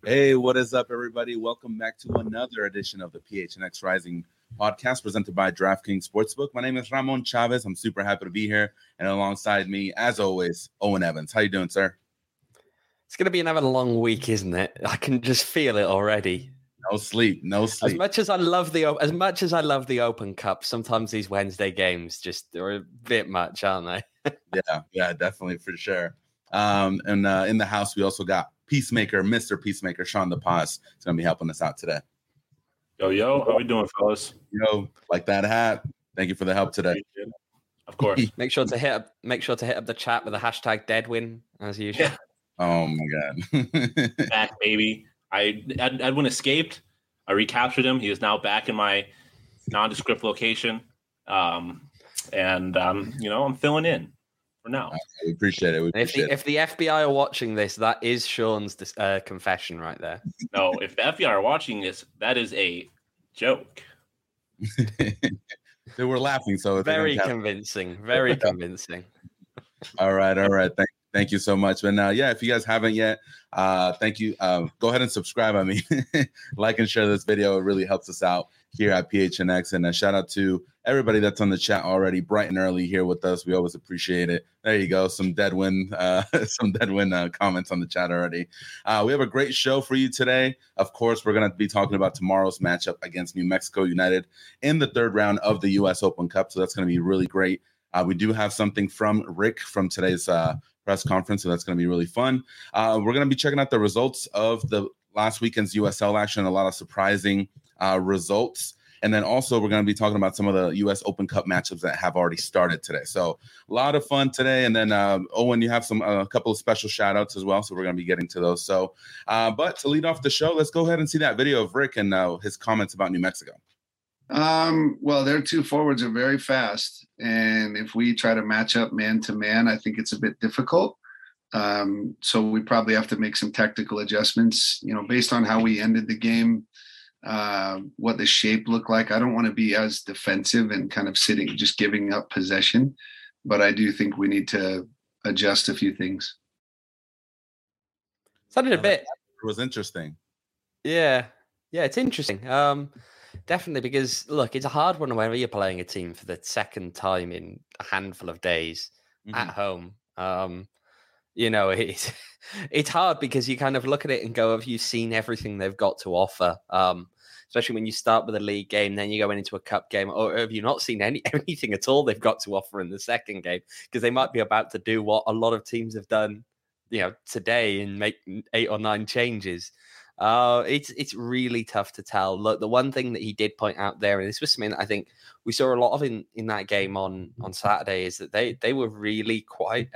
Hey, what is up, everybody? Welcome back to another edition of the PHNX Rising podcast presented by DraftKings Sportsbook. My name is Ramon Chavez. I'm super happy to be here. And alongside me, as always, Owen Evans. How you doing, sir? It's going to be another long week, isn't it? I can just feel it already. No sleep. As much as I love the Open Cup, sometimes these Wednesday games just are a bit much, aren't they? Yeah, definitely, for sure. And in the house, we also got Peacemaker, Mr. Peacemaker, Sean the Paz. He's going to be helping us out today. Yo, how we doing, fellas? Yo, like that hat. Thank you for the help today. Of course. Make sure to hit up the chat with the hashtag Deadwin as usual. Yeah. Oh my God. Back, baby. Edwin escaped. I recaptured him. He is now back in my nondescript location. I'm filling in for now. We appreciate it. If the FBI are watching this, that is Sean's confession right there. No, if the FBI are watching this, that is a joke. They were laughing, so very convincing. Very convincing. All right. Thank you so much. And if you guys haven't yet, thank you. Go ahead and subscribe. Like and share this video. It really helps us out here at PHNX. And a shout out to everybody that's on the chat already, bright and early here with us. We always appreciate it. There you go. Some Deadwin comments on the chat already. We have a great show for you today. Of course, we're going to be talking about tomorrow's matchup against New Mexico United in the third round of the U.S. Open Cup. So that's going to be really great. We do have something from Rick from today's press conference, so that's going to be really fun. We're going to be checking out the results of the last weekend's USL action, a lot of surprising results. And then also we're going to be talking about some of the U.S. Open Cup matchups that have already started today. So a lot of fun today. And then, Owen, you have a couple of special shout outs as well. So we're going to be getting to those. So, but to lead off the show, let's go ahead and see that video of Rick and his comments about New Mexico. Well, their two forwards are very fast. And if we try to match up man to man, I think it's a bit difficult. So we probably have to make some tactical adjustments, based on how we ended the game, what the shape looked like. I don't want to be as defensive and kind of just giving up possession, but I do think we need to adjust a few things. Sounded a bit. It was interesting. Yeah, it's interesting. Definitely, because look, it's a hard one whenever you're playing a team for the second time in a handful of days at home. It's hard because you kind of look at it and go, have you seen everything they've got to offer? Especially when you start with a league game, then you're going into a cup game, or have you not seen anything at all they've got to offer in the second game? Because they might be about to do what a lot of teams have done, today and make 8 or 9 changes. It's really tough to tell. Look, the one thing that he did point out there, and this was something that I think we saw a lot of in that game on Saturday, is that they were really quite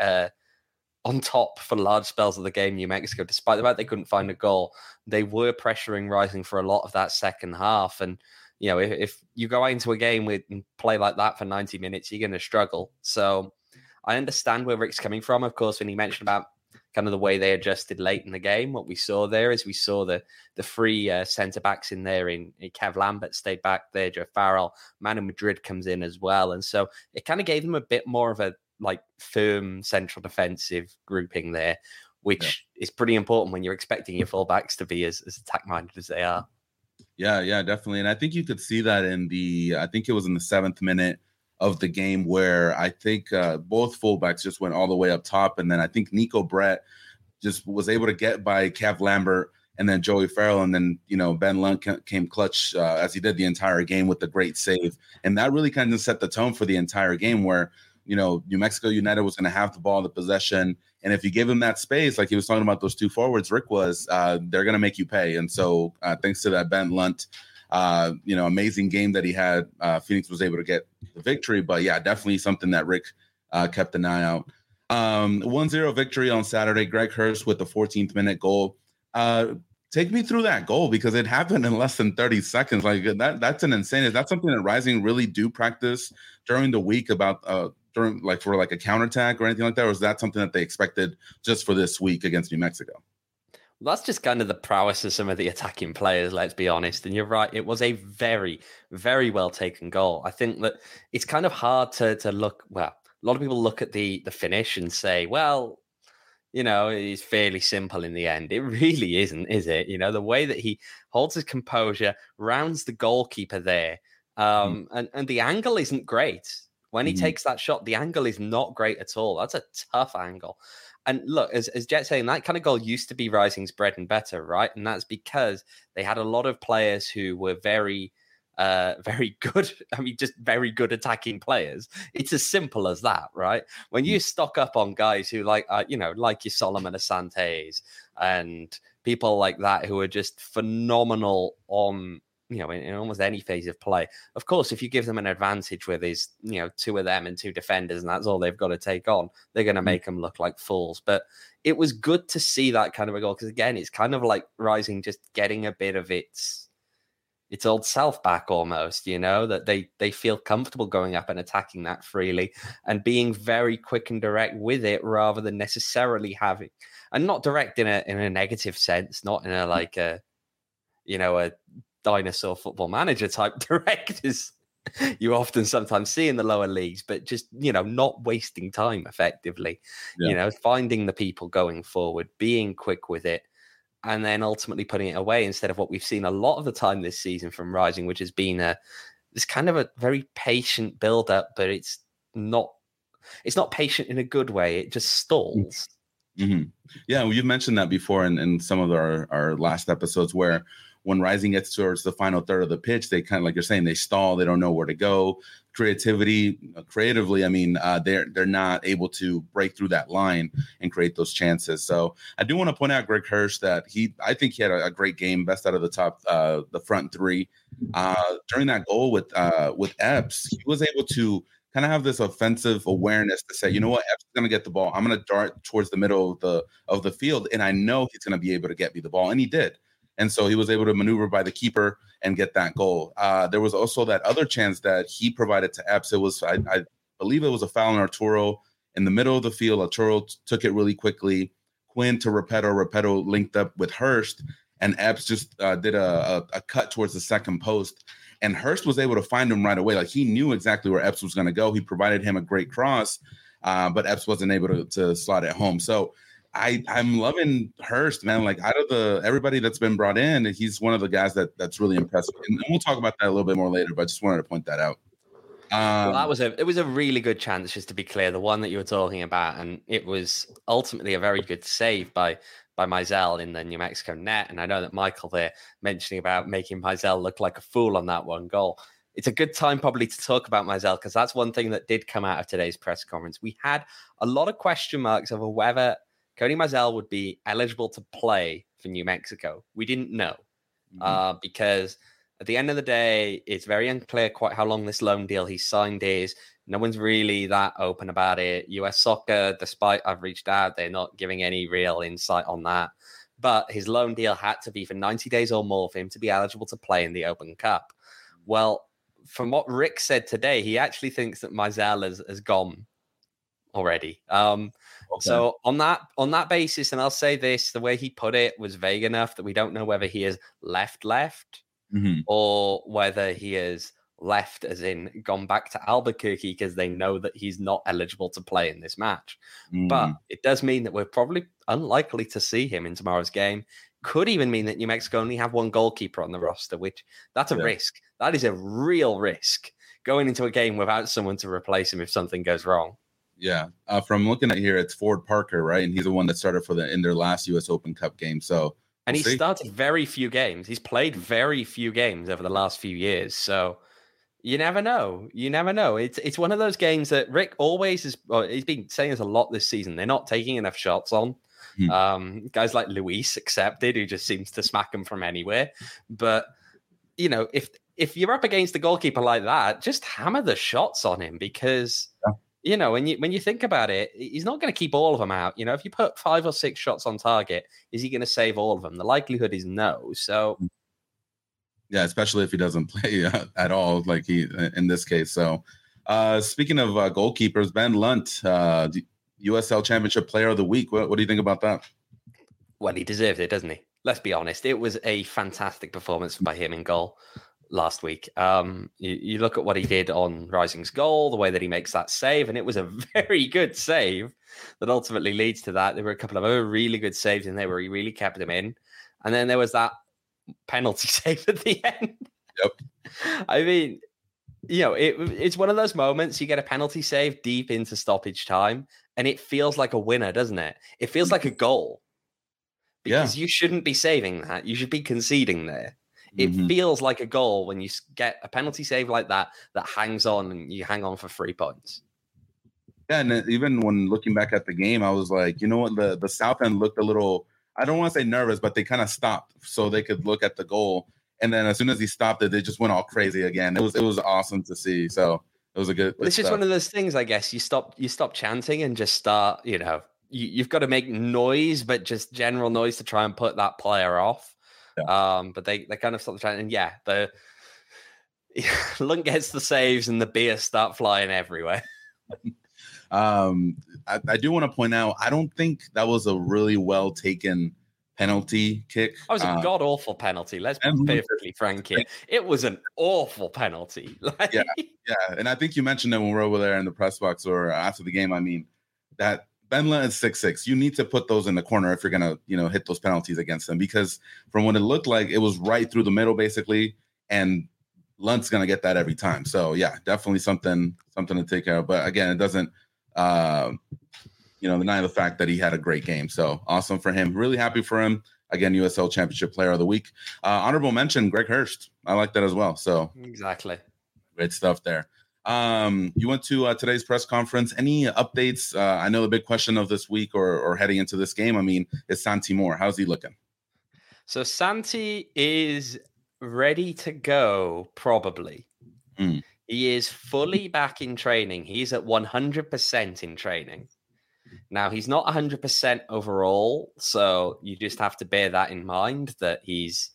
on top for large spells of the game. New Mexico, despite the fact they couldn't find a goal, they were pressuring Rising for a lot of that second half. And if you go into a game and play like that for 90 minutes, you're going to struggle. So I understand where Rick's coming from. Of course, when he mentioned about kind of the way they adjusted late in the game, what we saw there is we saw the three centre-backs in there. In Kev Lambert stayed back there, Joe Farrell, Manu Madrid comes in as well. And so it kind of gave them a bit more of a firm central defensive grouping there, which is pretty important when you're expecting your fullbacks to be as attack-minded as they are. Yeah, definitely. And I think you could see that I think it was in the 7th minute of the game where I think both fullbacks just went all the way up top. And then I think Nico Brett just was able to get by Kev Lambert and then Joey Farrell. And then, Ben Lund came clutch as he did the entire game with the great save. And that really kind of set the tone for the entire game where, New Mexico United was going to have the ball, the possession. And if you give them that space, like he was talking about those two forwards, Rick was, they're going to make you pay. And so thanks to that Ben Lunt, amazing game that he had, Phoenix was able to get the victory. But yeah, definitely something that Rick kept an eye out. 1-0 victory on Saturday. Greg Hurst with the 14th minute goal. Take me through that goal because it happened in less than 30 seconds. Like that's an insane. Is that something that Rising really do practice during the week about for a counterattack or anything like that? Or is that something that they expected just for this week against New Mexico? Well, that's just kind of the prowess of some of the attacking players, let's be honest. And you're right, it was a very, very well taken goal. I think that it's kind of hard to look, well, a lot of people look at the finish and say, well, is fairly simple in the end. It really isn't, is it? The way that he holds his composure, rounds the goalkeeper there, and the angle isn't great. When he takes that shot, the angle is not great at all. That's a tough angle. And look, as Jet's saying, that kind of goal used to be Rising's bread and butter, right? And that's because they had a lot of players who were very, very good. I mean, just very good attacking players. It's as simple as that, right? When you stock up on guys who like your Solomon Asantes and people like that who are just phenomenal on, in almost any phase of play. Of course, if you give them an advantage where there's, two of them and two defenders and that's all they've got to take on, they're going to make them look like fools. But it was good to see that kind of a goal because, again, it's kind of like Rising just getting a bit of its old self back almost, that they feel comfortable going up and attacking that freely and being very quick and direct with it rather than necessarily having, and not direct in a negative sense, not in a dinosaur Football Manager type direct as you often sometimes see in the lower leagues, but just, not wasting time effectively, finding the people going forward, being quick with it, and then ultimately putting it away instead of what we've seen a lot of the time this season from Rising, which has been this kind of a very patient build up, but it's not patient in a good way. It just stalls. Mm-hmm. Yeah. Well, you've mentioned that before in some of our last episodes where when Rising gets towards the final third of the pitch, they kind of, like you're saying, they stall. They don't know where to go. Creatively, I mean, they're not able to break through that line and create those chances. So I do want to point out Greg Hirsch that I think he had a great game, best out of the front three. During that goal with Epps, he was able to kind of have this offensive awareness to say, you know what, Epps is going to get the ball. I'm going to dart towards the middle of the field, and I know he's going to be able to get me the ball, and he did. And so he was able to maneuver by the keeper and get that goal. There was also that other chance that he provided to Epps. It was, I believe it was a foul on Arturo in the middle of the field. Arturo took it really quickly. Quinn to Repetto. Repetto linked up with Hurst, and Epps just did a cut towards the second post. And Hurst was able to find him right away. Like, he knew exactly where Epps was going to go. He provided him a great cross, but Epps wasn't able to slot it home. So I'm loving Hurst, man. Like, out of everybody that's been brought in, he's one of the guys that's really impressive. And we'll talk about that a little bit more later, but I just wanted to point that out. Well, it was a really good chance, just to be clear, the one that you were talking about, and it was ultimately a very good save by Mizell in the New Mexico net. And I know that Michael there mentioning about making Mizell look like a fool on that one goal. It's a good time probably to talk about Mizell, because that's one thing that did come out of today's press conference. We had a lot of question marks over whether Cody Mizell would be eligible to play for New Mexico. We didn't know because at the end of the day, it's very unclear quite how long this loan deal he signed is. No one's really that open about it. US Soccer, despite I've reached out, they're not giving any real insight on that. But his loan deal had to be for 90 days or more for him to be eligible to play in the Open Cup. Well, from what Rick said today, he actually thinks that Mizell has gone already. Okay. So on that basis, and I'll say this, the way he put it was vague enough that we don't know whether he has left or whether he has left as in gone back to Albuquerque because they know that he's not eligible to play in this match. But it does mean that we're probably unlikely to see him in tomorrow's game. Could even mean that New Mexico only have one goalkeeper on the roster, which that's a risk. That is a real risk, going into a game without someone to replace him if something goes wrong. Yeah. From looking at here, it's Ford Parker, right? And he's the one that started in their last U.S. Open Cup game. So, and he started very few games. He's played very few games over the last few years. So you never know. It's one of those games that Rick always he's been saying this a lot this season. They're not taking enough shots on. Guys like Luis accepted, who just seems to smack them from anywhere. But, if you're up against a goalkeeper like that, just hammer the shots on him because... Yeah. When you think about it, he's not going to keep all of them out. If you put 5 or 6 shots on target, is he going to save all of them? The likelihood is no. So, yeah, especially if he doesn't play at all, like he in this case. So, speaking of goalkeepers, Ben Lunt, USL Championship Player of the Week. What do you think about that? Well, he deserved it, doesn't he? Let's be honest. It was a fantastic performance by him in goal. last week. You look at what he did on Rising's goal, the way that he makes that save, and it was a very good save that ultimately leads to that. There were a couple of other really good saves in there where he really kept them in. And then there was that penalty save at the end. Yep. I mean, it's one of those moments you get a penalty save deep into stoppage time, and it feels like a winner, doesn't it? It feels like a goal. Because you shouldn't be saving that. You should be conceding there. It feels like a goal when you get a penalty save like that hangs on and you hang on for 3 points. Yeah, and even when looking back at the game, I was like, you know what? The South End looked a little, I don't want to say nervous, but they kind of stopped so they could look at the goal. And then as soon as he stopped it, they just went all crazy again. It was awesome to see. So it was a good. It's just one of those things, I guess. You stop chanting and just start. You've got to make noise, but just general noise to try and put that player off. Yeah. But they kind of stop chanting. And yeah, the Lund gets the saves and the beers start flying everywhere. I do want to point out, I don't think that was a really well taken penalty kick. It was a god awful penalty. Let's be perfectly frank here. It was an awful penalty. Yeah, and I think you mentioned it when we were over there in the press box or after the game. I mean, that Benla is 6'6". You need to put those in the corner if you're gonna, hit those penalties against them, because from what it looked like, it was right through the middle basically, and Lund's gonna get that every time. So yeah, definitely something to take care of. But again, it doesn't deny the fact that he had a great game. So awesome for him. Really happy for him. Again, USL Championship Player of the Week. Honorable mention, Greg Hurst. I like that as well. So exactly. Great stuff there. You went to today's press conference. Any updates? I know the big question of this week or heading into this game, I mean, is Santi Moore. How's he looking? So Santi is ready to go, probably. He is fully back in training. He's at 100% in training. Now, he's not 100% overall, so you just have to bear that in mind, that he's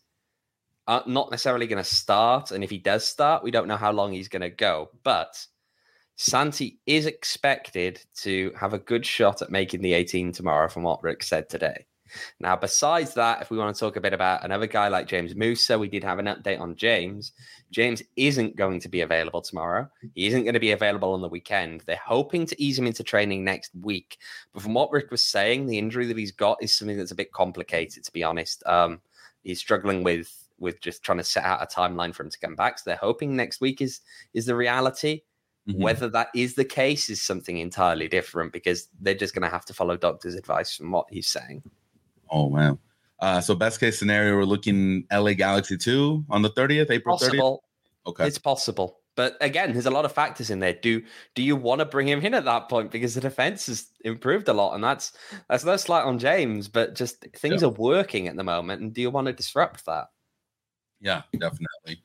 not necessarily going to start. And if he does start, we don't know how long he's going to go. But Santi is expected to have a good shot at making the 18 tomorrow, from what Rick said today. Now, besides that, if we want to talk a bit about another guy like James Musa, we did have an update on James. James isn't going to be available tomorrow. He isn't going to be available on the weekend. They're hoping to ease him into training next week. But from what Rick was saying, the injury that he's got is something that's a bit complicated, to be honest. He's struggling with just trying to set out a timeline for him to come back. So they're hoping next week is the reality. Whether that is the case is something entirely different, because they're just going to have to follow doctor's advice from what he's saying. Oh, wow. So best case scenario, we're looking LA Galaxy 2 on the 30th, April 30th? Okay. It's possible. But again, there's a lot of factors in there. Do you want to bring him in at that point? Because the defense has improved a lot, and that's no slight on James, but just things are working at the moment. And do you want to disrupt that? Yeah, definitely.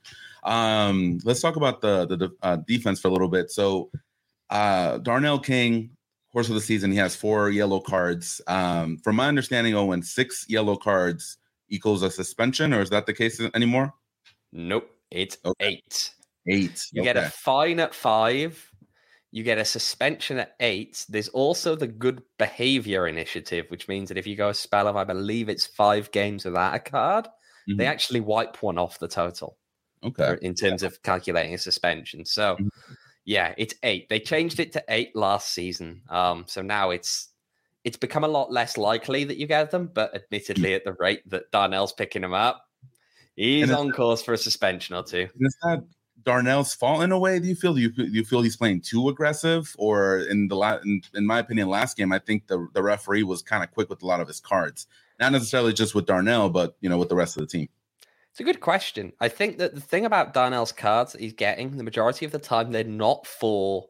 Let's talk about the defense for a little bit. So Darnell King, course of the season, he has 4 yellow cards. From my understanding, Owen, 6 yellow cards equals a suspension, or is that the case anymore? Nope, it's 8. 8. You get a fine at 5. You get a suspension at 8. There's also the good behavior initiative, which means that if you go a spell of, I believe it's 5 games without a card, they actually wipe one off the total. Okay. In terms of calculating a suspension. So, yeah, it's 8. They changed it to 8 last season. So now it's become a lot less likely that you get them, but admittedly, at the rate that Darnell's picking them up, he's on course for a suspension or 2. Is that Darnell's fault in a way? Do you feel he's playing too aggressive? Or in my opinion, last game, I think the referee was kind of quick with a lot of his cards. Not necessarily just with Darnell, but with the rest of the team. It's a good question. I think that the thing about Darnell's cards that he's getting, the majority of the time, they're not for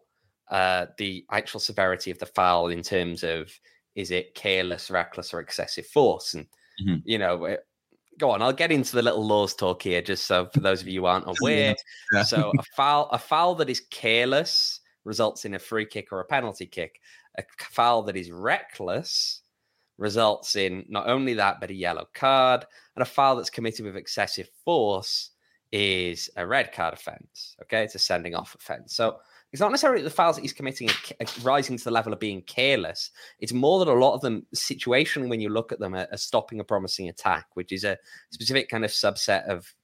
the actual severity of the foul in terms of, is it careless, reckless, or excessive force? And, go on, I'll get into the little laws talk here, just so for those of you who aren't aware. Yeah. So a foul that is careless results in a free kick or a penalty kick. A foul that is reckless results in not only that, but a yellow card. And a foul that's committed with excessive force is a red card offense. Okay, it's a sending off offense. So it's not necessarily the fouls that he's committing are rising to the level of being careless. It's more that a lot of them, situationally, when you look at them, are stopping a promising attack, which is a specific kind of subset of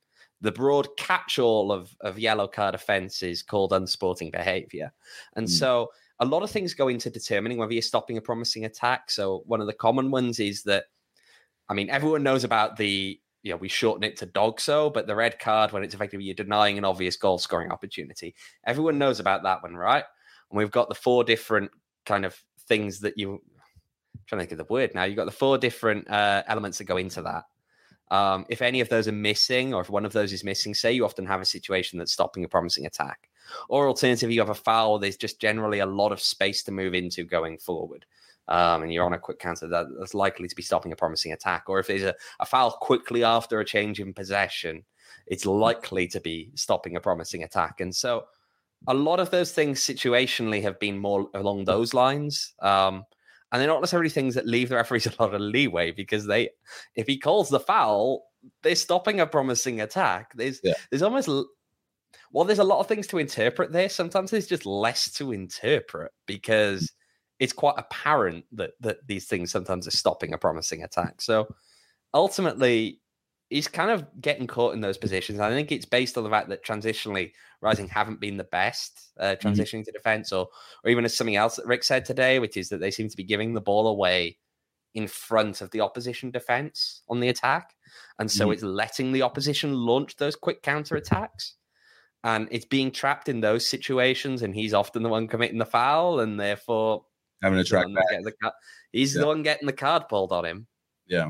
the broad catch-all of yellow card offences called unsporting behaviour. And so a lot of things go into determining whether you're stopping a promising attack. So one of the common ones is that, I mean, everyone knows about we shorten it to DOGSO, but the red card when it's effectively you're denying an obvious goal scoring opportunity. Everyone knows about that one, right? And we've got the 4 different kind of things that I'm trying to think of the word now. You've got the 4 different elements that go into that. If any of those are missing, or if one of those is missing, say you often have a situation that's stopping a promising attack. Or alternatively, you have a foul, there's just generally a lot of space to move into going forward. And you're on a quick counter that's likely to be stopping a promising attack. Or if there's a foul quickly after a change in possession, it's likely to be stopping a promising attack. And so a lot of those things situationally have been more along those lines. And they're not necessarily things that leave the referees a lot of leeway, because if he calls the foul, they're stopping a promising attack. There's almost, there's a lot of things to interpret there. Sometimes there's just less to interpret because it's quite apparent that these things sometimes are stopping a promising attack. So ultimately, he's kind of getting caught in those positions. I think it's based on the fact that transitionally Rising haven't been the best transitioning to defense, or even as something else that Rick said today, which is that they seem to be giving the ball away in front of the opposition defense on the attack. And so it's letting the opposition launch those quick counter attacks. And it's being trapped in those situations. And he's often the one committing the foul, and therefore having to track back. He's the one getting the card pulled on him. Yeah.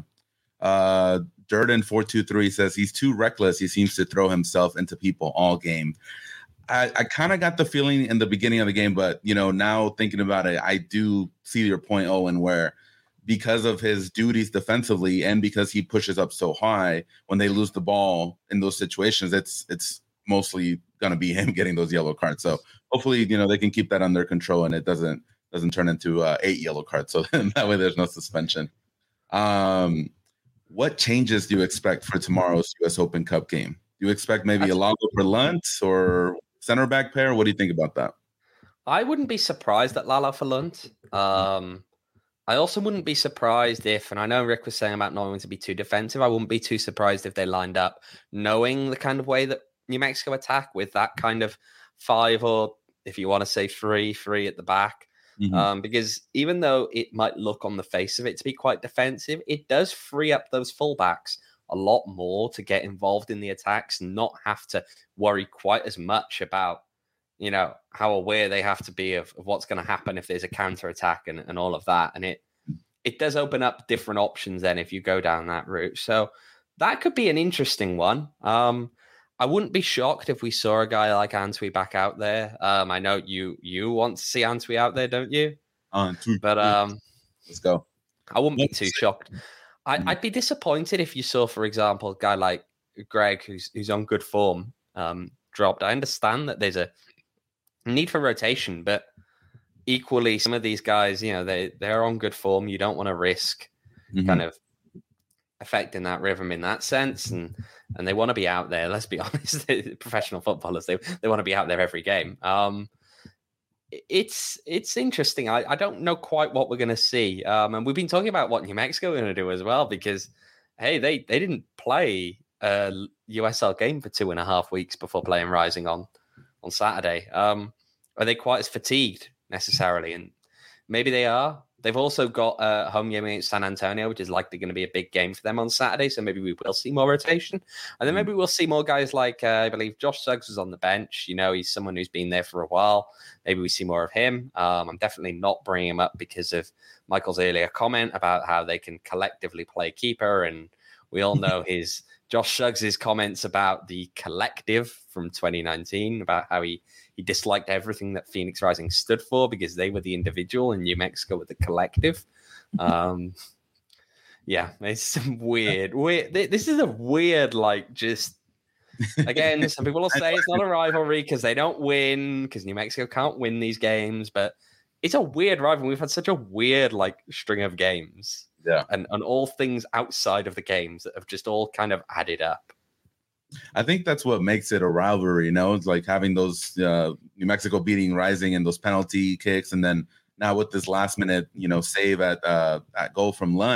Durden423 says he's too reckless. He seems to throw himself into people all game. I kind of got the feeling in the beginning of the game, but now thinking about it, I do see your point, Owen, where because of his duties defensively and because he pushes up so high, when they lose the ball in those situations, it's mostly going to be him getting those yellow cards. So hopefully, they can keep that under control and it doesn't turn into 8 yellow cards. So that way there's no suspension. What changes do you expect for tomorrow's U.S. Open Cup game? Do you expect maybe Alonso for Lunt or center back pair? What do you think about that? I wouldn't be surprised at Lala for Lunt. I also wouldn't be surprised if, and I know Rick was saying about not wanting to be too defensive, I wouldn't be too surprised if they lined up knowing the kind of way that New Mexico attack with that kind of 5, or if you want to say 3 at the back. Because even though it might look on the face of it to be quite defensive, it does free up those fullbacks a lot more to get involved in the attacks and not have to worry quite as much about, how aware they have to be of what's going to happen if there's a counter attack and all of that. And it does open up different options then if you go down that route. So that could be an interesting one. I wouldn't be shocked if we saw a guy like Antwi back out there. I know you want to see Antwi out there, don't you? But let's go. I wouldn't be too shocked. I'd be disappointed if you saw, for example, a guy like Greg, who's on good form, dropped. I understand that there's a need for rotation, but equally, some of these guys, they're on good form. You don't want to risk kind of affecting that rhythm in that sense, and they want to be out there. Let's be honest, professional footballers, they want to be out there every game. It's interesting. I don't know quite what we're going to see, and we've been talking about what New Mexico are going to do as well, because hey, they didn't play a USL game for 2.5 weeks before playing Rising on Saturday. Are they quite as fatigued necessarily? And maybe they are. They've also got a home game against San Antonio, which is likely going to be a big game for them on Saturday. So maybe we will see more rotation. And then maybe we'll see more guys like, I believe Josh Suggs was on the bench. He's someone who's been there for a while. Maybe we see more of him. I'm definitely not bringing him up because of Michael's earlier comment about how they can collectively play keeper. And we all know Josh Suggs' comments about the collective from 2019, about how he disliked everything that Phoenix Rising stood for because they were the individual and New Mexico were the collective. Yeah, it's some weird. This is a weird, again, some people will say it's not a rivalry because they don't win, because New Mexico can't win these games, but it's a weird rivalry. We've had such a weird, string of games. Yeah. And all things outside of the games that have just all kind of added up. I think that's what makes it a rivalry, It's like having those New Mexico beating Rising and those penalty kicks, and then now with this last minute, save at goal from Lunt,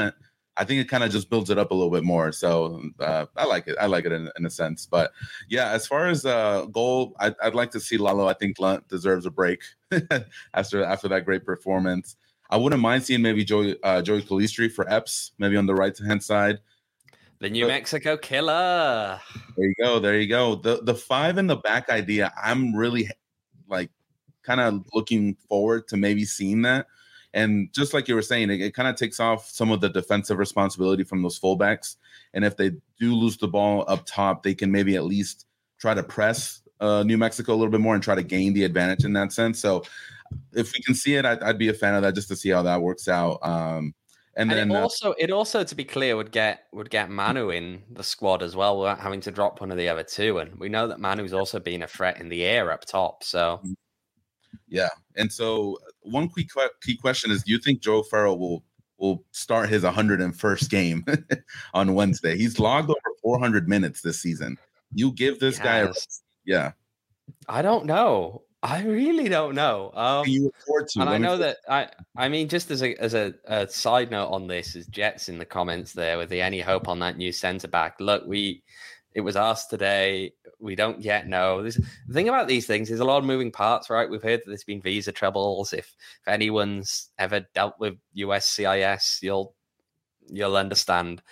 I think it kind of just builds it up a little bit more. So I like it. I like it in a sense. But yeah, as far as goal, I'd like to see Lalo. I think Lunt deserves a break after that great performance. I wouldn't mind seeing maybe Joey Calistri for Epps, maybe on the right hand side. The New Mexico Killer. There you go. The 5 in the back idea, I'm really like kind of looking forward to maybe seeing that. And just like you were saying, it kind of takes off some of the defensive responsibility from those fullbacks. And if they do lose the ball up top, they can maybe at least try to press New Mexico a little bit more and try to gain the advantage in that sense. So if we can see it, I'd be a fan of that just to see how that works out. And then it also, to be clear, would get Manu in the squad as well without having to drop one of the other two. And we know that Manu's also been a threat in the air up top. So yeah. And so one key question is, do you think Joe Farrell will start his 101st game on Wednesday? He's logged over 400 minutes this season. You give this guy yeah. I don't know. I really don't know. You afford to. And I know that I mean, just as a side note on this, is Jets in the comments there with the any hope on that new centre back. Look, it was asked today. We don't yet know. The thing about these things, there's a lot of moving parts, right? We've heard that there's been visa troubles. If anyone's ever dealt with USCIS, you'll understand.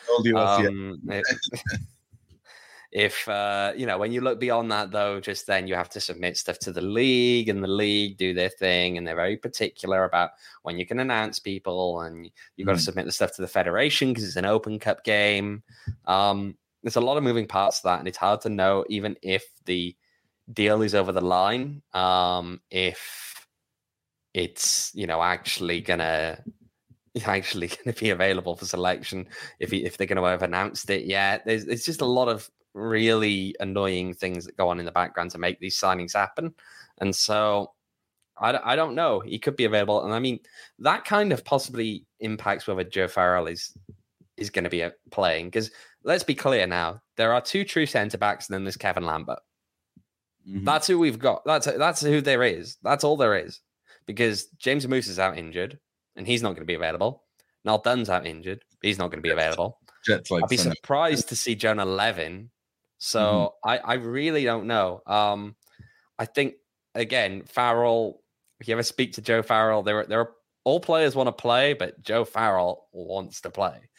If when you look beyond that, though, just then you have to submit stuff to the league, and the league do their thing, and they're very particular about when you can announce people, and you've got to submit the stuff to the federation because it's an Open Cup game. There's a lot of moving parts to that, and it's hard to know even if the deal is over the line, if it's actually gonna be available for selection, if they're going to have announced it yet. There's just a lot of really annoying things that go on in the background to make these signings happen, and so I don't know. He could be available, and I mean that kind of possibly impacts whether Joe Farrell is going to be playing, because let's be clear now, there are two true centre backs, and then there's Kevin Lambert. Mm-hmm. That's who we've got. That's who there is. That's all there is, because James Moose is out injured, and he's not going to be available. Noel Dunn's out injured. He's not going to be available. I'd be surprised to see Jonah Levin. So I really don't know. I think, again, Farrell, if you ever speak to Joe Farrell, there are all players want to play, but Joe Farrell wants to play.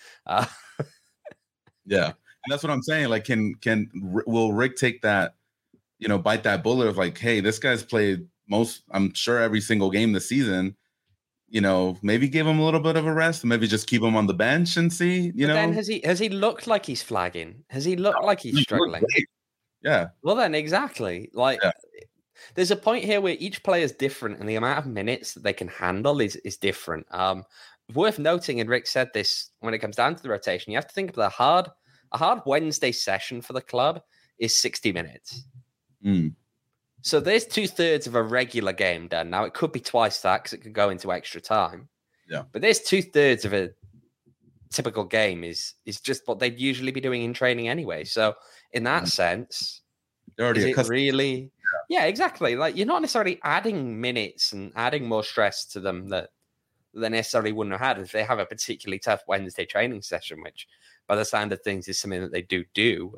Yeah. And that's what I'm saying. Like, will Rick take that, bite that bullet of like, hey, this guy's played I'm sure every single game this season. Maybe give him a little bit of a rest, maybe just keep him on the bench and see, Then has he looked like he's flagging? Has he looked like he's struggling? Yeah. Well, then exactly. There's a point here where each player is different, and the amount of minutes that they can handle is different. Worth noting, and Rick said this, when it comes down to the rotation, you have to think of a hard Wednesday session for the club is 60 minutes. So there's 2/3 of a regular game done. Now, it could be twice that because it could go into extra time. Yeah. But there's 2/3 of a typical game is just what they'd usually be doing in training anyway. So in that sense, they're already really... Yeah, exactly. Like, you're not necessarily adding minutes and adding more stress to them that they necessarily wouldn't have had if they have a particularly tough Wednesday training session, which by the sound of things is something that they do.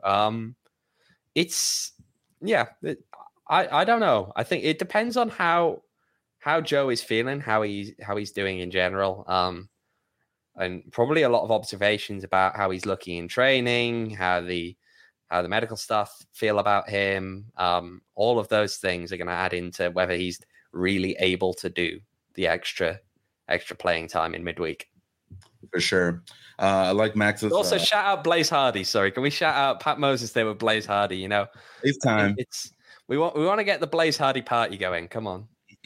I don't know. I think it depends on how Joe is feeling, how he's doing in general, and probably a lot of observations about how he's looking in training, how the medical staff feel about him. All of those things are going to add into whether he's really able to do the extra playing time in midweek. For sure. I like Max's. Also, shout out Blaze Hardy. Sorry, can we shout out Pat Moses there with Blaze Hardy? It's time. We want to get the Blaze Hardy party going. Come on.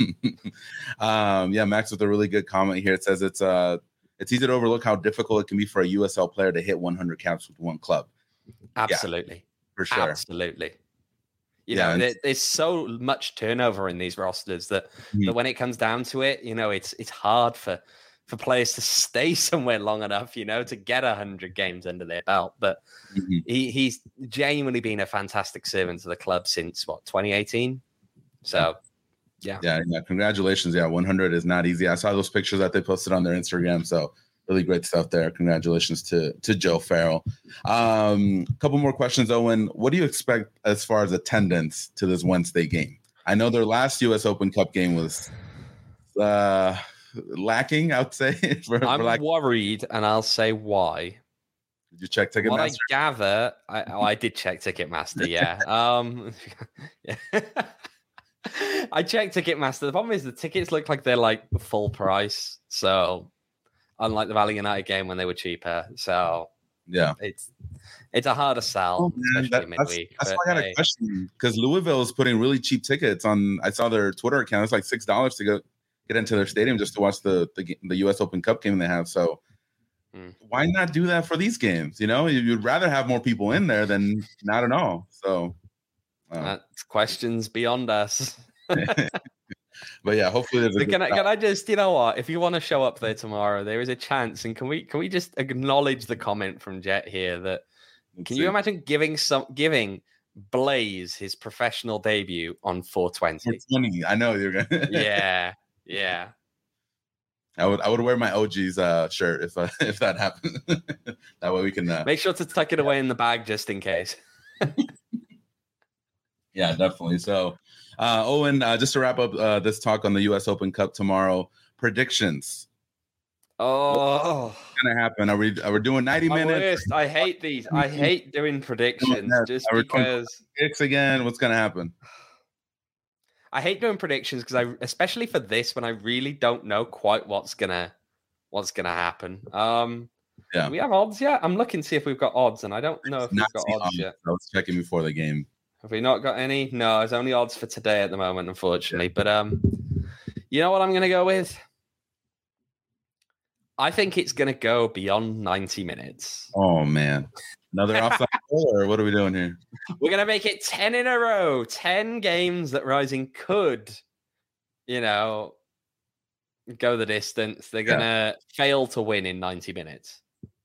Max with a really good comment here. It says it's easy to overlook how difficult it can be for a USL player to hit 100 caps with one club. Absolutely. Yeah, for sure. Absolutely. There's so much turnover in these rosters that when it comes down to it, it's hard for players to stay somewhere long enough, to get 100 games under their belt. But he's genuinely been a fantastic servant to the club since 2018. So, yeah. Congratulations. Yeah, 100 is not easy. I saw those pictures that they posted on their Instagram. So Really great stuff there. Congratulations to Joe Farrell. A couple more questions, Owen. What do you expect as far as attendance to this Wednesday game? I know their last U.S. Open Cup game was lacking, I would say. I'm worried, and I'll say why. Did you check Ticketmaster? What I gather, I did check Ticketmaster, yeah. Yeah. I checked Ticketmaster. The problem is the tickets look like they're like full price. So unlike the Valley United game when they were cheaper. So yeah, it's a harder sell, especially midweek. That's why I got a question, because Louisville is putting really cheap tickets on. I saw their Twitter account. It's like $6 to get into their stadium just to watch the U.S. Open Cup game they have. So why not do that for these games? You know, you'd rather have more people in there than not at all. So that's questions beyond us. But yeah, hopefully there's can I just, you know what, if you want to show up there tomorrow, there is a chance. And can we just acknowledge the comment from Jet here that you imagine giving Blaze his professional debut on 420? 420. I know you're gonna. Yeah. I would wear my OG's shirt if that happened. That way we can make sure to tuck it away in the bag just in case. Yeah, definitely. So, Owen, just to wrap up this talk on the U.S. Open Cup tomorrow, predictions. Oh, what's gonna happen? Are we doing 90 minutes? Worst. I hate these. I hate doing predictions just because. Picks again. What's gonna happen? I hate doing predictions because especially for this, when I really don't know quite what's gonna happen. Yeah. Do we have odds yet? I'm looking to see if we've got odds, and I don't know if we've got odds yet. I was checking before the game. Have we not got any? No, there's only odds for today at the moment, unfortunately. But you know what I'm gonna go with? I think it's gonna go beyond 90 minutes. Oh man. Another offside goal, or what are we doing here? We're going to make it 10 in a row. 10 games that Rising could, go the distance. They're going to fail to win in 90 minutes.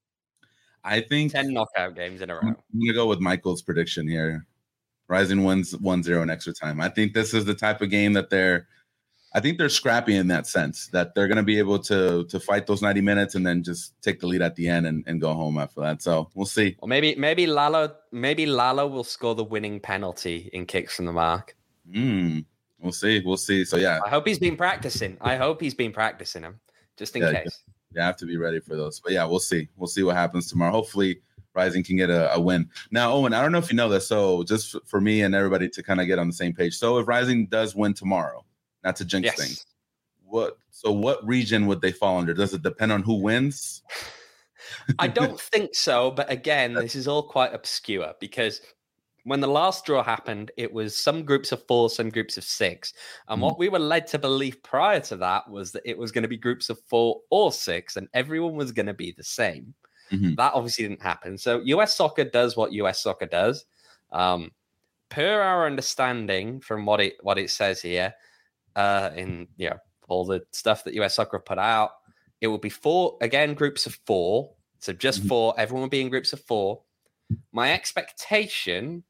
I think 10 knockout games in a row. I'm going to go with Michael's prediction here. Rising wins 1-0 in extra time. I think this is the type of game that they're scrappy in that sense, that they're going to be able to fight those 90 minutes and then just take the lead at the end and go home after that. So we'll see. Or maybe Lalo will score the winning penalty in kicks from the mark. We'll see. So yeah, I hope he's been practicing. Them just in case. You have to be ready for those. But yeah, we'll see. We'll see what happens tomorrow. Hopefully Rising can get a win. Now, Owen, I don't know if you know this. So just for me and everybody to kind of get on the same page. So if Rising does win tomorrow, not to jinx things, what region would they fall under? Does it depend on who wins? I don't think so. But again, this is all quite obscure because when the last draw happened, it was some groups of 4, some groups of 6. And what we were led to believe prior to that was that it was going to be groups of 4 or 6 and everyone was going to be the same. That obviously didn't happen. So US Soccer does what US Soccer does. Per our understanding from what it says here, in all the stuff that US Soccer have put out, it will be 4 again, groups of 4. So just 4. Everyone will be in groups of 4. My expectation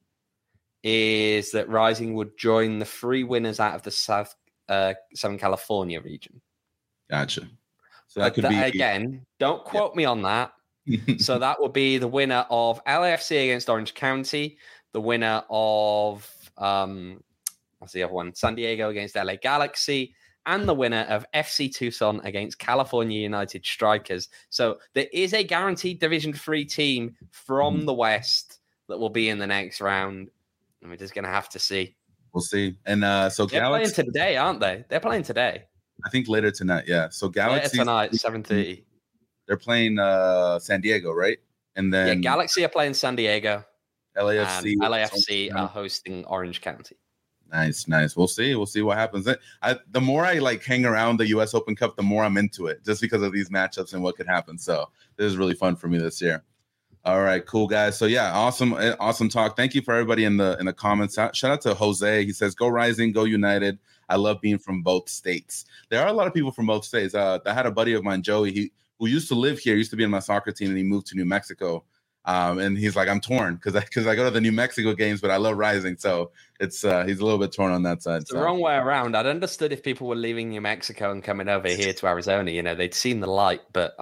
is that Rising would join the 3 winners out of the Southern California region. Gotcha. So that could be again. Don't quote me on that. So that would be the winner of LAFC against Orange County, the winner of what's the other one? San Diego against LA Galaxy, and the winner of FC Tucson against California United Strikers. So there is a guaranteed Division 3 team from the West that will be in the next round. And we're just going to have to see. We'll see. And so they're Galaxy playing today, aren't they? They're playing today. I think later tonight, yeah. So Galaxy tonight, 7:30. They're playing San Diego, right? And then Galaxy are playing San Diego. LAFC are hosting Orange County. Nice. We'll see what happens. The more I hang around the U.S. Open Cup, the more I'm into it, just because of these matchups and what could happen. So this is really fun for me this year. All right, cool guys. So yeah, awesome talk. Thank you for everybody in the comments. Shout out to Jose. He says, "Go Rising, go United." I love being from both states. There are a lot of people from both states. I had a buddy of mine, Joey, who used to live here, used to be in my soccer team, and he moved to New Mexico And he's like, I'm torn because I go to the New Mexico games, but I love Rising, so it's he's a little bit torn on that side. It's the wrong way around. I'd understood if people were leaving New Mexico and coming over here to Arizona. They'd seen the light, but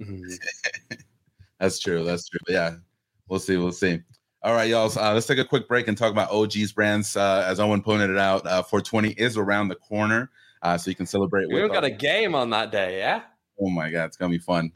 That's true. Yeah, we'll see. All right, y'all. Let's take a quick break and talk about OG's brands. As Owen pointed it out, 420 is around the corner, so you can celebrate. We've got a game on that day, yeah? Oh, my God. It's going to be fun.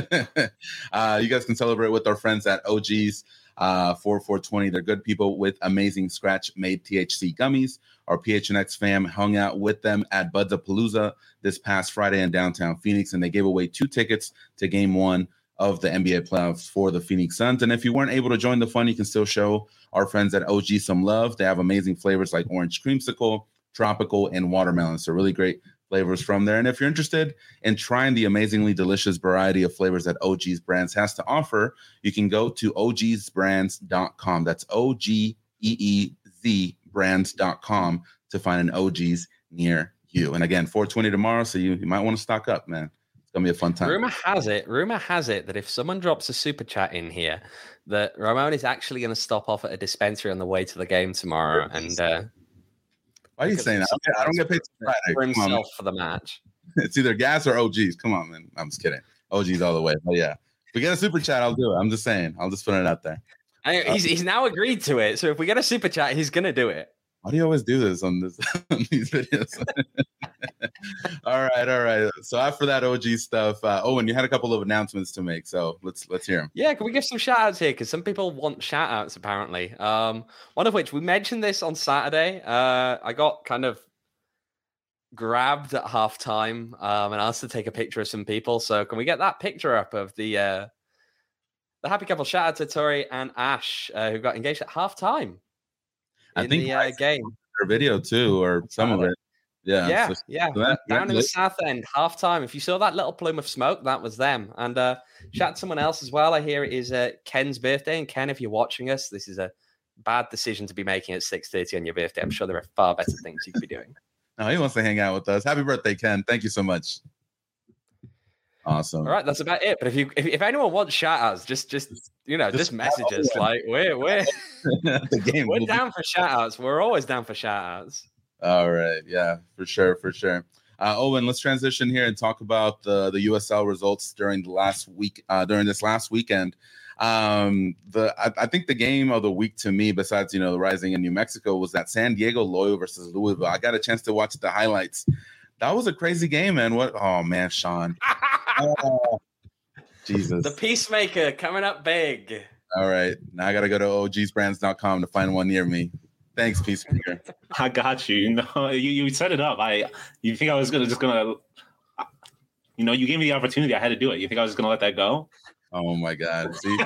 You guys can celebrate with our friends at OG's for 420. They're good people with amazing scratch-made THC gummies. Our PHNX fam hung out with them at Buds-A-Palooza this past Friday in downtown Phoenix, and they gave away 2 tickets to Game 1 of the NBA playoffs for the Phoenix Suns. And if you weren't able to join the fun, you can still show our friends at OG some love. They have amazing flavors like orange creamsicle, tropical, and watermelon. So really great flavors from there. And if you're interested in trying the amazingly delicious variety of flavors that OG's Brands has to offer, you can go to ogsbrands.com. That's OGEEZ brands.com to find an OG's near you. And again, 420 tomorrow, so you might want to stock up, man. Gonna be a fun time. Rumor has it that if someone drops a super chat in here, that Ramon is actually going to stop off at a dispensary on the way to the game tomorrow. And why are you saying that? I don't get paid Friday for himself for the match. It's either gas or OGs. Come on, man. I'm just kidding. OGs all the way. But yeah, if we get a super chat, I'll do it. I'm just saying. I'll just put it out there. He's now agreed to it. So if we get a super chat, he's gonna do it. Why do you always do this on these videos? All right. So after that OG stuff, Owen, you had a couple of announcements to make, so let's hear them. Yeah, can we give some shout outs here? Because some people want shout outs apparently. One of which we mentioned this on Saturday. I got kind of grabbed at halftime and asked to take a picture of some people. So can we get that picture up of the happy couple? Shout out to Tori and Ash who got engaged at halftime. I think the game their video too, or some of it. Yeah. Down in the south end, halftime. If you saw that little plume of smoke, that was them. And shout out to someone else as well. I hear it is Ken's birthday. And Ken, if you're watching us, this is a bad decision to be making at 6:30 on your birthday. I'm sure there are far better things you could be doing. No, he wants to hang out with us. Happy birthday, Ken. Thank you so much. Awesome. All right, that's about it. But if anyone wants shout outs, just message us. Like we're the game. We're down for shout outs. We're always down for shout outs. All right. Yeah, for sure. Owen, let's transition here and talk about the USL results during the last week, during this last weekend. I think the game of the week to me, besides the Rising in New Mexico, was that San Diego Loyal versus Louisville. I got a chance to watch the highlights. That was a crazy game, man. Oh man, Sean. Oh, Jesus. The Peacemaker coming up big. All right. Now I got to go to ogsbrands.com to find one near me. Thanks, Peacemaker. I got you. No, you set it up. You think I was gonna you gave me the opportunity. I had to do it. You think I was gonna let that go? Oh my God. See?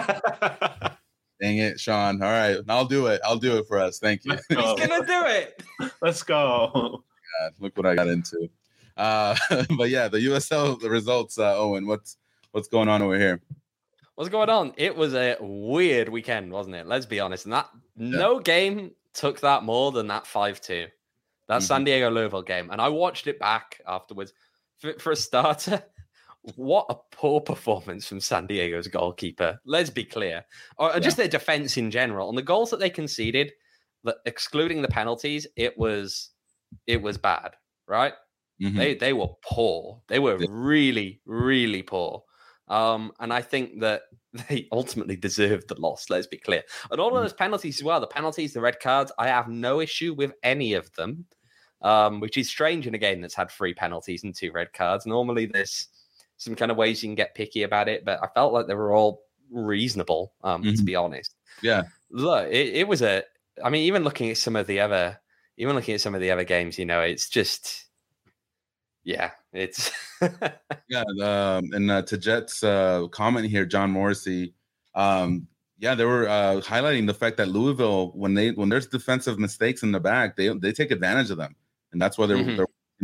Dang it, Sean. All right. I'll do it. I'll do it for us. Thank you. He's gonna do it. Let's go. God, look what I got into. But yeah, the USL, the results, Owen, what's going on over here? What's going on? It was a weird weekend, wasn't it? Let's be honest. And no game took that more than that 5-2. That San Diego Louisville game. And I watched it back afterwards. For a starter, what a poor performance from San Diego's goalkeeper. Let's be clear. Or just their defense in general. And the goals that they conceded, excluding the penalties, it was bad, right? Mm-hmm. They were poor. They were really, really poor. And I think that they ultimately deserved the loss, let's be clear. And all of those penalties as well, the penalties, the red cards, I have no issue with any of them, which is strange in a game that's had 3 penalties and 2 red cards. Normally there's some kind of ways you can get picky about it, but I felt like they were all reasonable, to be honest. Yeah. Look, it was even looking at some of the other games, it's just... Yeah, it's and to Jet's comment here, John Morrissey, they were highlighting the fact that Louisville, when there's defensive mistakes in the back, they take advantage of them, and that's why they're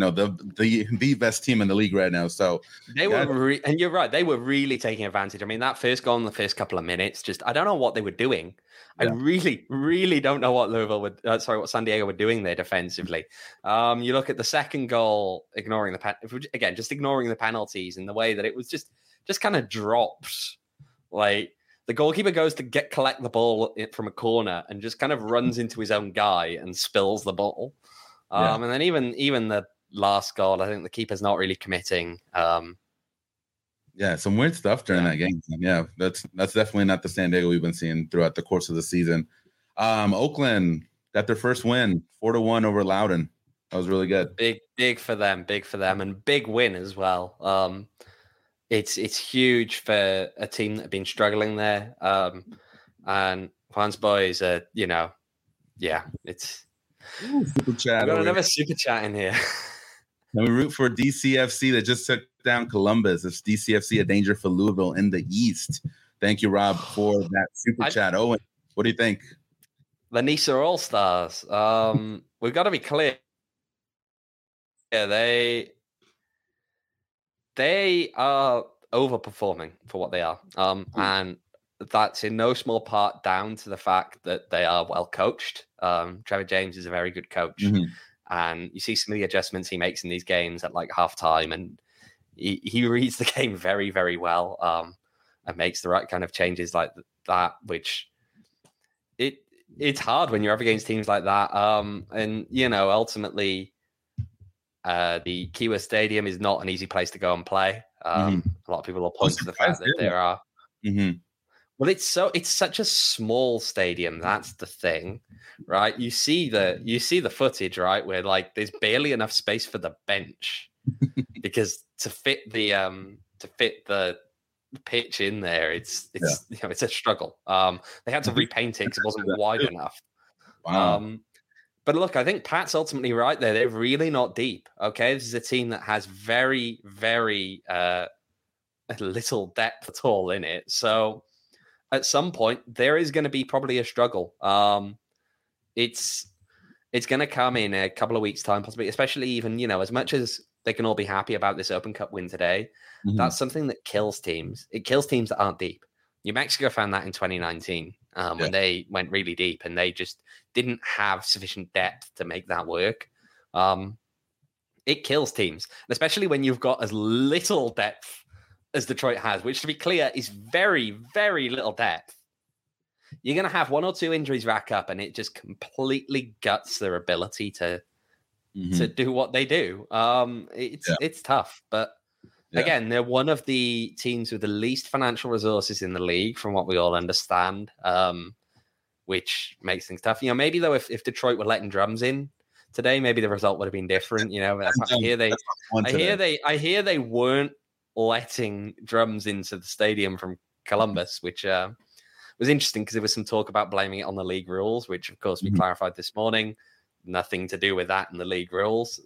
the best team in the league right now. So they were, and you're right, they were really taking advantage. I mean, that first goal in the first couple of minutes, I don't know what they were doing. Yeah. I really, really don't know what what San Diego were doing there defensively. You look at the second goal, ignoring the penalties in the way that it was just kind of dropped. Like The goalkeeper goes to collect the ball from a corner and just kind of runs into his own guy and spills the ball. And then even the last goal, I think the keeper's not really committing. Yeah, some weird stuff during that game. Yeah, that's definitely not the San Diego we've been seeing throughout the course of the season. Oakland got their first win, 4-1 over Loudoun. That was really good. Big for them, and big win as well. It's huge for a team that have been struggling there. And Juan's boys are, it's. Super chat. We've got another super chat in here. And we root for DCFC that just took down Columbus. It's DCFC a danger for Louisville in the East. Thank you, Rob, for that super chat. Owen, what do you think? The Nisa All-Stars. We've got to be clear. Yeah, they are overperforming for what they are. And that's in no small part down to the fact that they are well coached. Trevor James is a very good coach. Mm-hmm. And you see some of the adjustments he makes in these games at like halftime, and he reads the game very, very well, and makes the right kind of changes like that, which it's hard when you're up against teams like that. And, ultimately, the Kiwa Stadium is not an easy place to go and play. A lot of people will point to the fact that there are... Mm-hmm. Well, it's such a small stadium. That's the thing, right? You see the footage, right, where like there's barely enough space for the bench because to fit the pitch in there, it's it's a struggle. They had to repaint it because it wasn't wide enough. Wow. But look, I think Pat's ultimately right there. They're really not deep. Okay, this is a team that has very, very little depth at all in it. So at some point, there is going to be probably a struggle. It's going to come in a couple of weeks' time, possibly, especially even, as much as they can all be happy about this Open Cup win today, that's something that kills teams. It kills teams that aren't deep. New Mexico found that in 2019 when they went really deep and they just didn't have sufficient depth to make that work. It kills teams, especially when you've got as little depth as Detroit has, which, to be clear, is very, very little depth. You're going to have one or two injuries rack up, and it just completely guts their ability to do what they do. It's tough, but again, they're one of the teams with the least financial resources in the league, from what we all understand, which makes things tough. Maybe though, if Detroit were letting drums in today, maybe the result would have been different. I hear they weren't letting drums into the stadium from Columbus, which was interesting because there was some talk about blaming it on the league rules, which of course we clarified this morning. Nothing to do with that in the league rules.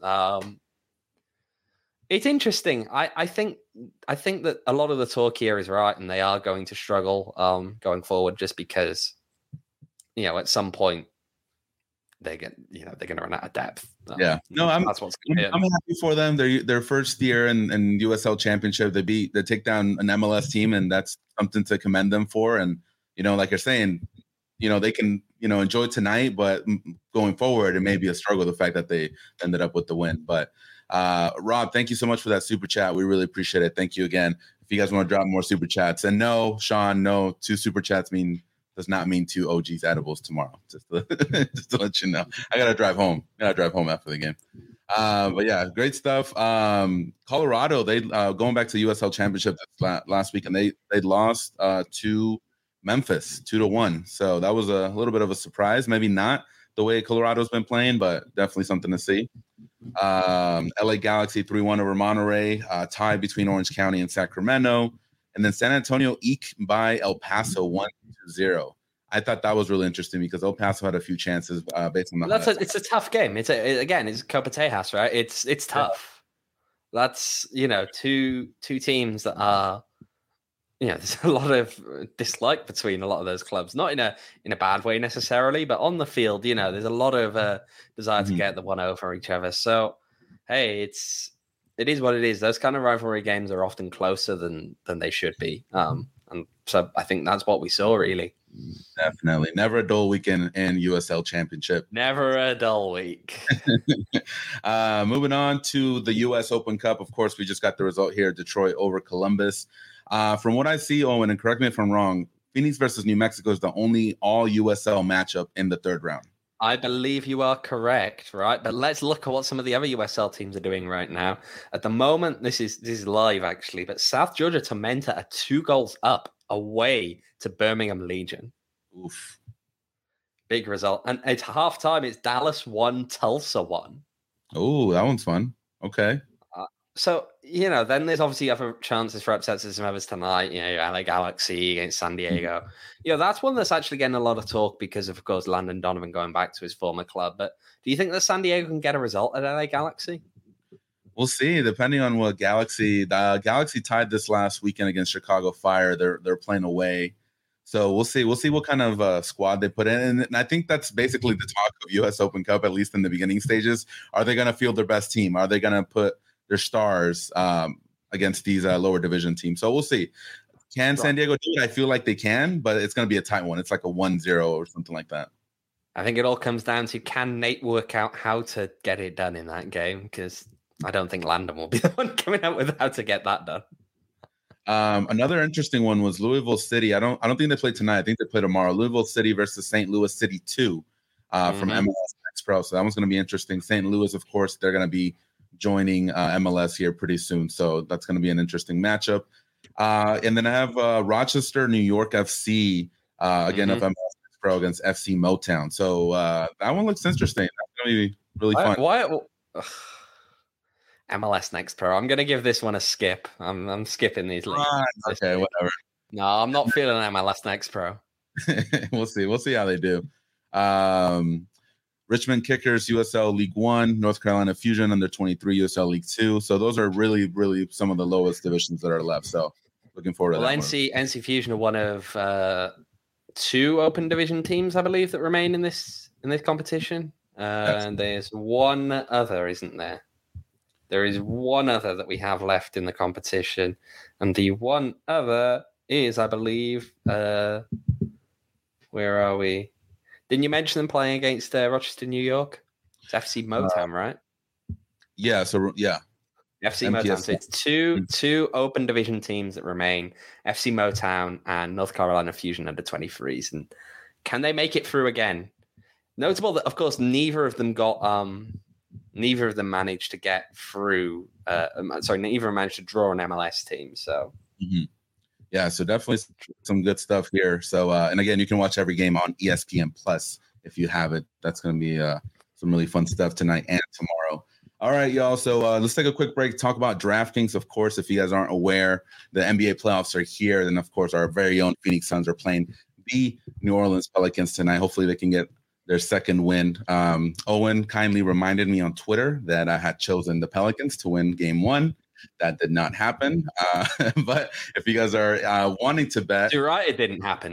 It's interesting. I think that a lot of the talk here is right, and they are going to struggle going forward, just because at some point they're going to run out of depth. I'm happy for them. Their first year in USL Championship, they take down an MLS team, and that's something to commend them for. And like you're saying, they can enjoy tonight, but going forward, it may be a struggle. The fact that they ended up with the win, but Rob, thank you so much for that super chat. We really appreciate it. Thank you again. If you guys want to drop more super chats, and no, Sean, no, 2 super chats does not mean 2 OG's edibles tomorrow. Just to let you know, I gotta drive home. After the game. But yeah, great stuff. Colorado, they going back to the USL Championship last week, and they lost to Memphis 2-1. So that was a little bit of a surprise. Maybe not the way Colorado's been playing, but definitely something to see. LA Galaxy 3-1 over Monterey, tie between Orange County and Sacramento. And then San Antonio eked by El Paso 1-0. I thought that was really interesting because El Paso had a few chances based on the. It's a tough game. It's Copa Tejas, right? It's tough. Yeah. That's two teams that are. There's a lot of dislike between a lot of those clubs, not in a bad way necessarily, but on the field, there's a lot of desire to get the one over each other. So, hey, it is what it is. Those kind of rivalry games are often closer than they should be. And so I think that's what we saw, really. Definitely. Never a dull weekend in USL Championship. Never a dull week. Moving on to the US Open Cup. Of course, we just got the result here. Detroit over Columbus. From what I see, Owen, and correct me if I'm wrong, Phoenix versus New Mexico is the only all USL matchup in the third round. I believe you are correct, right? But let's look at what some of the other USL teams are doing right now. At the moment, this is live actually, but South Georgia Tormenta are 2 goals up away to Birmingham Legion. Oof. Big result. And it's halftime. It's Dallas 1, Tulsa 1. Oh, that one's fun. Okay. So, then there's obviously other chances for upsets of some others tonight. LA Galaxy against San Diego. That's one that's actually getting a lot of talk because of course, Landon Donovan going back to his former club. But do you think that San Diego can get a result at LA Galaxy? We'll see, depending on what Galaxy tied this last weekend against Chicago Fire. They're playing away. So we'll see. We'll see what kind of squad they put in. And I think that's basically the talk of U.S. Open Cup, at least in the beginning stages. Are they going to field their best team? Are they going to put their stars against these lower division teams? So we'll see. Can San Diego do it? I feel like they can, but it's going to be a tight one. It's like a 1-0 or something like that. I think it all comes down to, can Nate work out how to get it done in that game? Because I don't think Landon will be the one coming out with how to get that done. Another interesting one was Louisville City. I don't think they play tonight. I think they play tomorrow. Louisville City versus St. Louis City 2 from MLS Next Pro. So that one's going to be interesting. St. Louis, of course, they're going to be joining MLS here pretty soon. So that's going to be an interesting matchup. And then I have Rochester, New York FC, again, of MLS Next Pro against FC Motown. So that one looks interesting. That's going to be really fun. MLS Next Pro. I'm going to give this one a skip. I'm skipping these leagues. Okay, whatever. No, I'm not feeling MLS Next Pro. We'll see. We'll see how they do. Richmond Kickers, USL League 1, North Carolina Fusion under 23, USL League 2. So those are really, really some of the lowest divisions that are left. So looking forward to that. NC Fusion are one of 2 open division teams, I believe, that remain in this competition. And there's one other, isn't there? There is one other that we have left in the competition. And the one other is, I believe, where are we? Didn't you mention them playing against Rochester, New York? It's FC Motown, right? Yeah. So, yeah. FC Motown. So it's two open division teams that remain, FC Motown and North Carolina Fusion under 23s. And can they make it through again? Notable that, of course, neither of them managed to get through. Neither managed to draw an MLS team. So, yeah, so definitely some good stuff here. So, and again, you can watch every game on ESPN Plus if you have it. That's going to be some really fun stuff tonight and tomorrow. All right, y'all. So let's take a quick break. Talk about DraftKings. Of course, if you guys aren't aware, the NBA playoffs are here. Then, of course, our very own Phoenix Suns are playing the New Orleans Pelicans tonight. Hopefully, they can get their second win. Owen kindly reminded me on Twitter that I had chosen the Pelicans to win Game 1. That did not happen. But if you guys are wanting to bet, Too right, it didn't happen.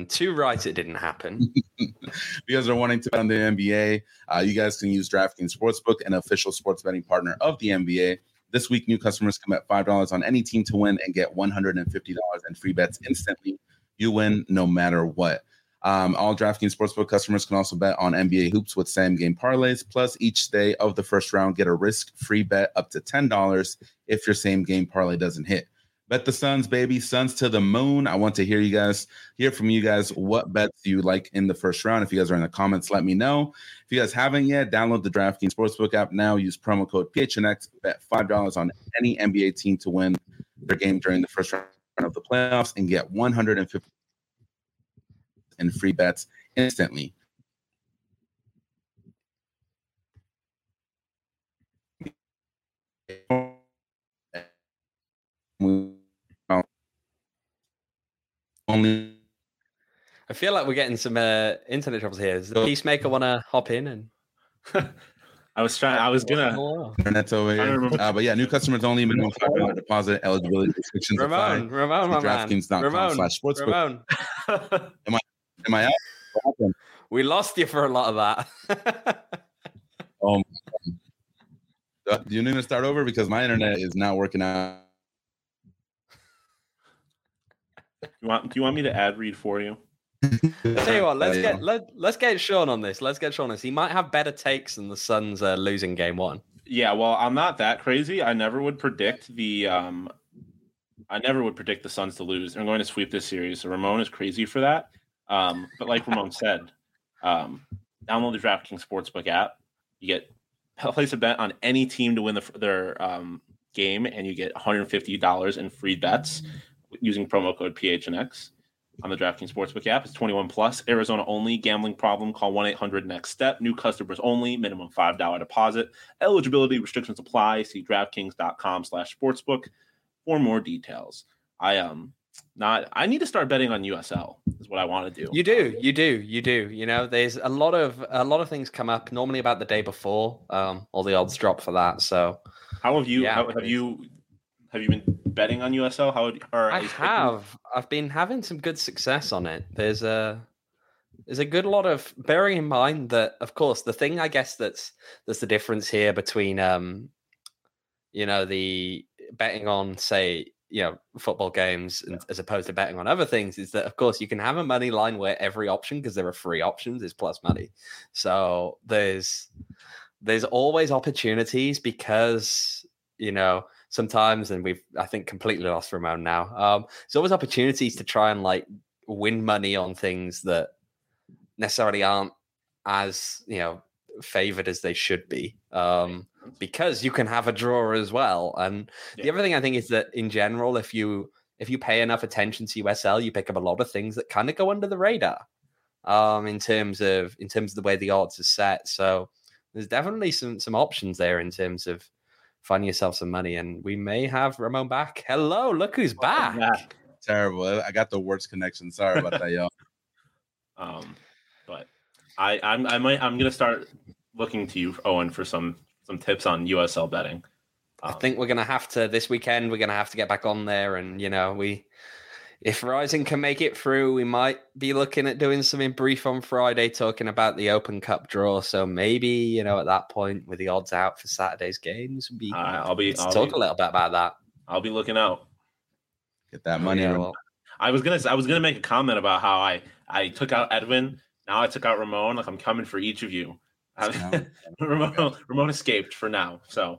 If you guys are wanting to bet on the NBA, you guys can use DraftKings Sportsbook, an official sports betting partner of the NBA. This week, new customers can bet $5 on any team to win and get $150 in free bets instantly. You win no matter what. All DraftKings Sportsbook customers can also bet on NBA hoops with same-game parlays. Plus, each day of the first round, get a risk-free bet up to $10 if your same-game parlay doesn't hit. Bet the Suns, baby. Suns to the moon. I want to hear from you guys. What bets do you like in the first round? If you guys are in the comments, let me know. If you guys haven't yet, download the DraftKings Sportsbook app now. Use promo code PHNX. Bet $5 on any NBA team to win their game during the first round of the playoffs and get $150 in free bets instantly. I feel like we're getting some internet troubles here. Does the Peacemaker want to hop in? And I was gonna. Internet's over here. But yeah, new customers only, minimum $5 deposit, eligibility restrictions apply. Ramon, DraftKings.com/sportsbook. Am I out? What happened? We lost you for a lot of that. Oh, do you need to start over because my internet is not working out? Do you want me to ad read for you? I'll tell you what, let's get Sean on this. He might have better takes than the Suns losing Game 1. Yeah, well, I'm not that crazy. I never would predict the I never would predict the Suns to lose. They're going to sweep this series. So Ramon is crazy for that. But like Ramon said, download the DraftKings Sportsbook app. You get place a bet on any team to win their game, and you get $150 in free bets using promo code PHNX on the DraftKings Sportsbook app. It's 21 plus, Arizona only. Gambling problem? Call 1-800-NEXT-STEP. New customers only. Minimum $5 deposit. Eligibility restrictions apply. See DraftKings.com/sportsbook for more details. I need to start betting on USL is what I want to do. You do. You know, there's a lot of things come up normally about the day before. All the odds drop for that. So how have you have you been betting on USL? I've been having some good success on it. There's a good lot of, bearing in mind that, of course, the thing I guess that's the difference here between the betting on, say, football games as opposed to betting on other things is that, of course, you can have a money line where every option, because there are free options, is plus money. So there's always opportunities because, sometimes, and I think completely lost Ramon now. There's always opportunities to try and like win money on things that necessarily aren't as, favored as they should be. Because you can have a draw as well. And the other thing I think is that in general, if you pay enough attention to USL, you pick up a lot of things that kind of go under the radar in terms of the way the odds are set. So there's definitely some options there in terms of finding yourself some money. And we may have Ramon back. Hello, look who's back. Terrible. I got the worst connection. Sorry about that, y'all. But I'm gonna start looking to you, Owen, for some tips on USL betting. I think we're going to have to, this weekend, we're going to have to get back on there. And, if Rising can make it through, we might be looking at doing something brief on Friday, talking about the Open Cup draw. So maybe, at that point, with the odds out for Saturday's games, I'll talk a little bit about that. I'll be looking out. Get that money. I was gonna make a comment about how I took out Edwin. Now I took out Ramon. Like, I'm coming for each of you. Ramon escaped for now, so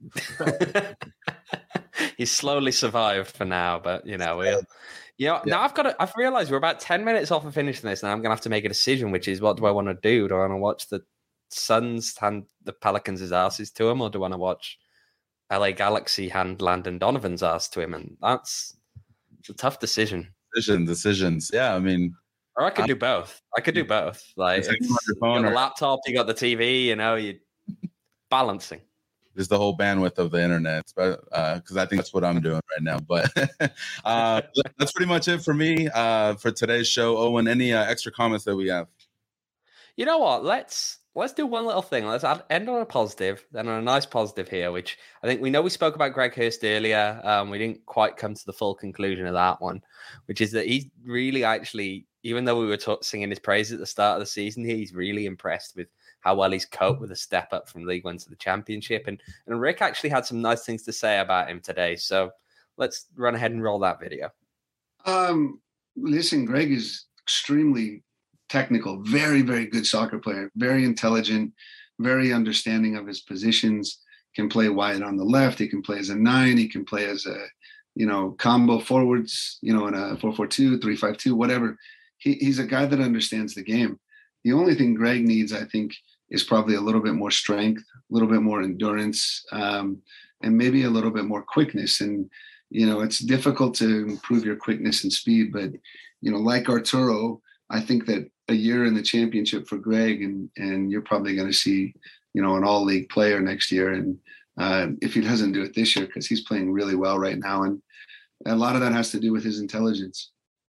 he's slowly survived for now. But now I've realized we're about 10 minutes off of finishing this. Now I'm gonna have to make a decision, which is, what do I want to do? Do I want to watch the Suns hand the Pelicans' asses to him, or do I want to watch LA Galaxy hand Landon Donovan's ass to him? And it's a tough decision. Decisions. Yeah, I mean. Or I could do both. Like, you got the laptop, you got the TV, you're balancing. There's the whole bandwidth of the internet, because I think that's what I'm doing right now. But that's pretty much it for me for today's show. Owen, any extra comments that we have? You know what? Let's do one little thing. Let's end on a positive, then on a nice positive here, which I think we spoke about Greg Hurst earlier. We didn't quite come to the full conclusion of that one, which is that he's really actually, even though we were singing his praise at the start of the season, he's really impressed with how well he's coped with a step up from League One to the Championship. And Rick actually had some nice things to say about him today. So let's run ahead and roll that video. Listen, Greg is extremely technical, very, very good soccer player, very intelligent, very understanding of his positions, can play wide on the left. He can play as a 9. He can play as a, combo forwards, in a 4-4-2, 3-5-2, whatever. He's a guy that understands the game. The only thing Greg needs, I think, is probably a little bit more strength, a little bit more endurance, and maybe a little bit more quickness. And, it's difficult to improve your quickness and speed, but, like Arturo, I think that a year in the championship for Greg, and you're probably going to see, an all-league player next year. And if he doesn't do it this year, because he's playing really well right now. And a lot of that has to do with his intelligence.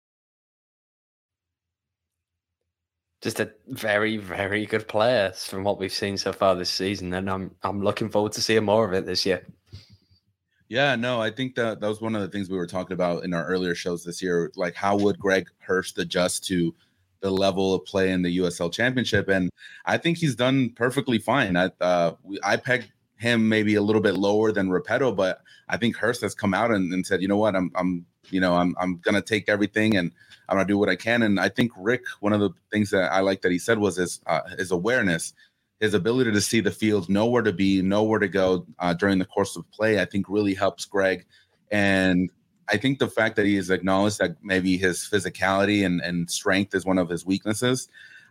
Just a very, very good player from what we've seen so far this season. And I'm looking forward to seeing more of it this year. Yeah, no, I think that was one of the things we were talking about in our earlier shows this year. Like, how would Greg Hurst adjust to the level of play in the USL Championship? And I think he's done perfectly fine. I pegged him maybe a little bit lower than Repetto, but I think Hurst has come out and said, you know what, I'm gonna take everything and I'm gonna do what I can. And I think Rick, one of the things that I like that he said was his awareness, his ability to see the field, know where to be, know where to go during the course of play, I think really helps Greg. And I think the fact that he has acknowledged that maybe his physicality and strength is one of his weaknesses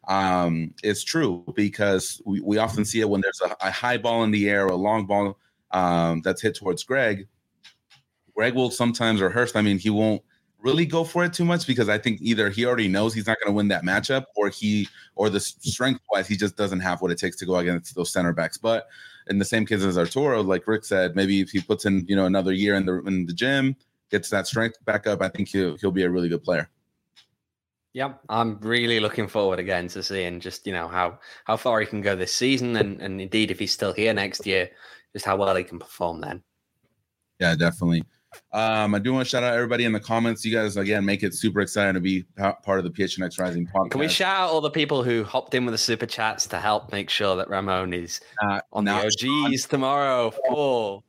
is true, because we often see it when there's a high ball in the air or a long ball that's hit towards Greg. Greg will sometimes rehearse. I mean, he won't really go for it too much, because I think either he already knows he's not going to win that matchup, or the strength wise, he just doesn't have what it takes to go against those center backs. But in the same case as Arturo, like Rick said, maybe if he puts in, another year in the gym, gets that strength back up, I think he'll be a really good player. Yeah, I'm really looking forward again to seeing just, how far he can go this season, and indeed, if he's still here next year, just how well he can perform then. Yeah, definitely. I do want to shout out everybody in the comments. You guys, again, make it super exciting to be part of the PHNX Rising podcast. Can we shout out all the people who hopped in with the super chats to help make sure that Ramon is on the OGs Sean. Tomorrow for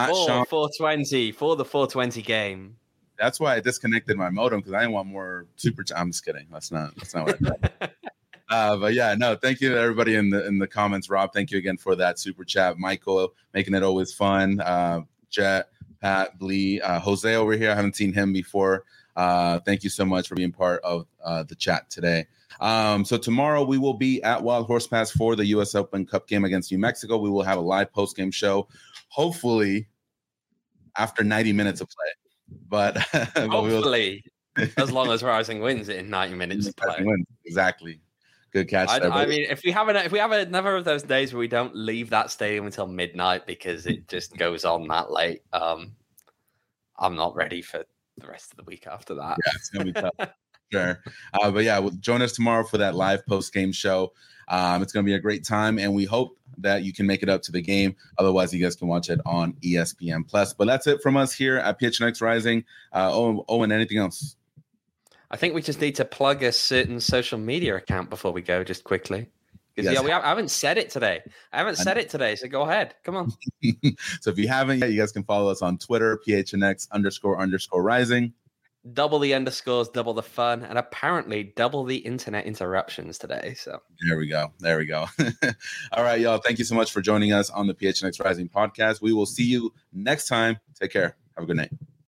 420 for the 420 game? That's why I disconnected my modem, because I didn't want more super. I'm just kidding. That's not what I thought. But yeah, no, thank you to everybody in the comments. Rob, thank you again for that super chat. Michael, making it always fun. Jet, Pat, Blee, Jose over here. I haven't seen him before. Thank you so much for being part of the chat today. So tomorrow we will be at Wild Horse Pass for the U.S. Open Cup game against New Mexico. We will have a live post-game show, hopefully after 90 minutes of play. But hopefully, as long as Rising wins it in 90 minutes of play. Exactly. Good catch. I mean, if we have another of those days where we don't leave that stadium until midnight because it just goes on that late, I'm not ready for the rest of the week after that. Yeah, it's gonna be tough. Sure. But yeah, join us tomorrow for that live post-game show. It's going to be a great time, and we hope that you can make it up to the game. Otherwise, you guys can watch it on ESPN Plus. But that's it from us here at PHNX Rising. Owen, anything else? I think we just need to plug a certain social media account before we go, just quickly. Because I haven't said it today. So go ahead. Come on. So if you haven't yet, you guys can follow us on Twitter, PHNX__rising. Double the underscores, double the fun, and apparently double the internet interruptions today. So there we go. All right, y'all. Thank you so much for joining us on the PHNX Rising podcast. We will see you next time. Take care. Have a good night.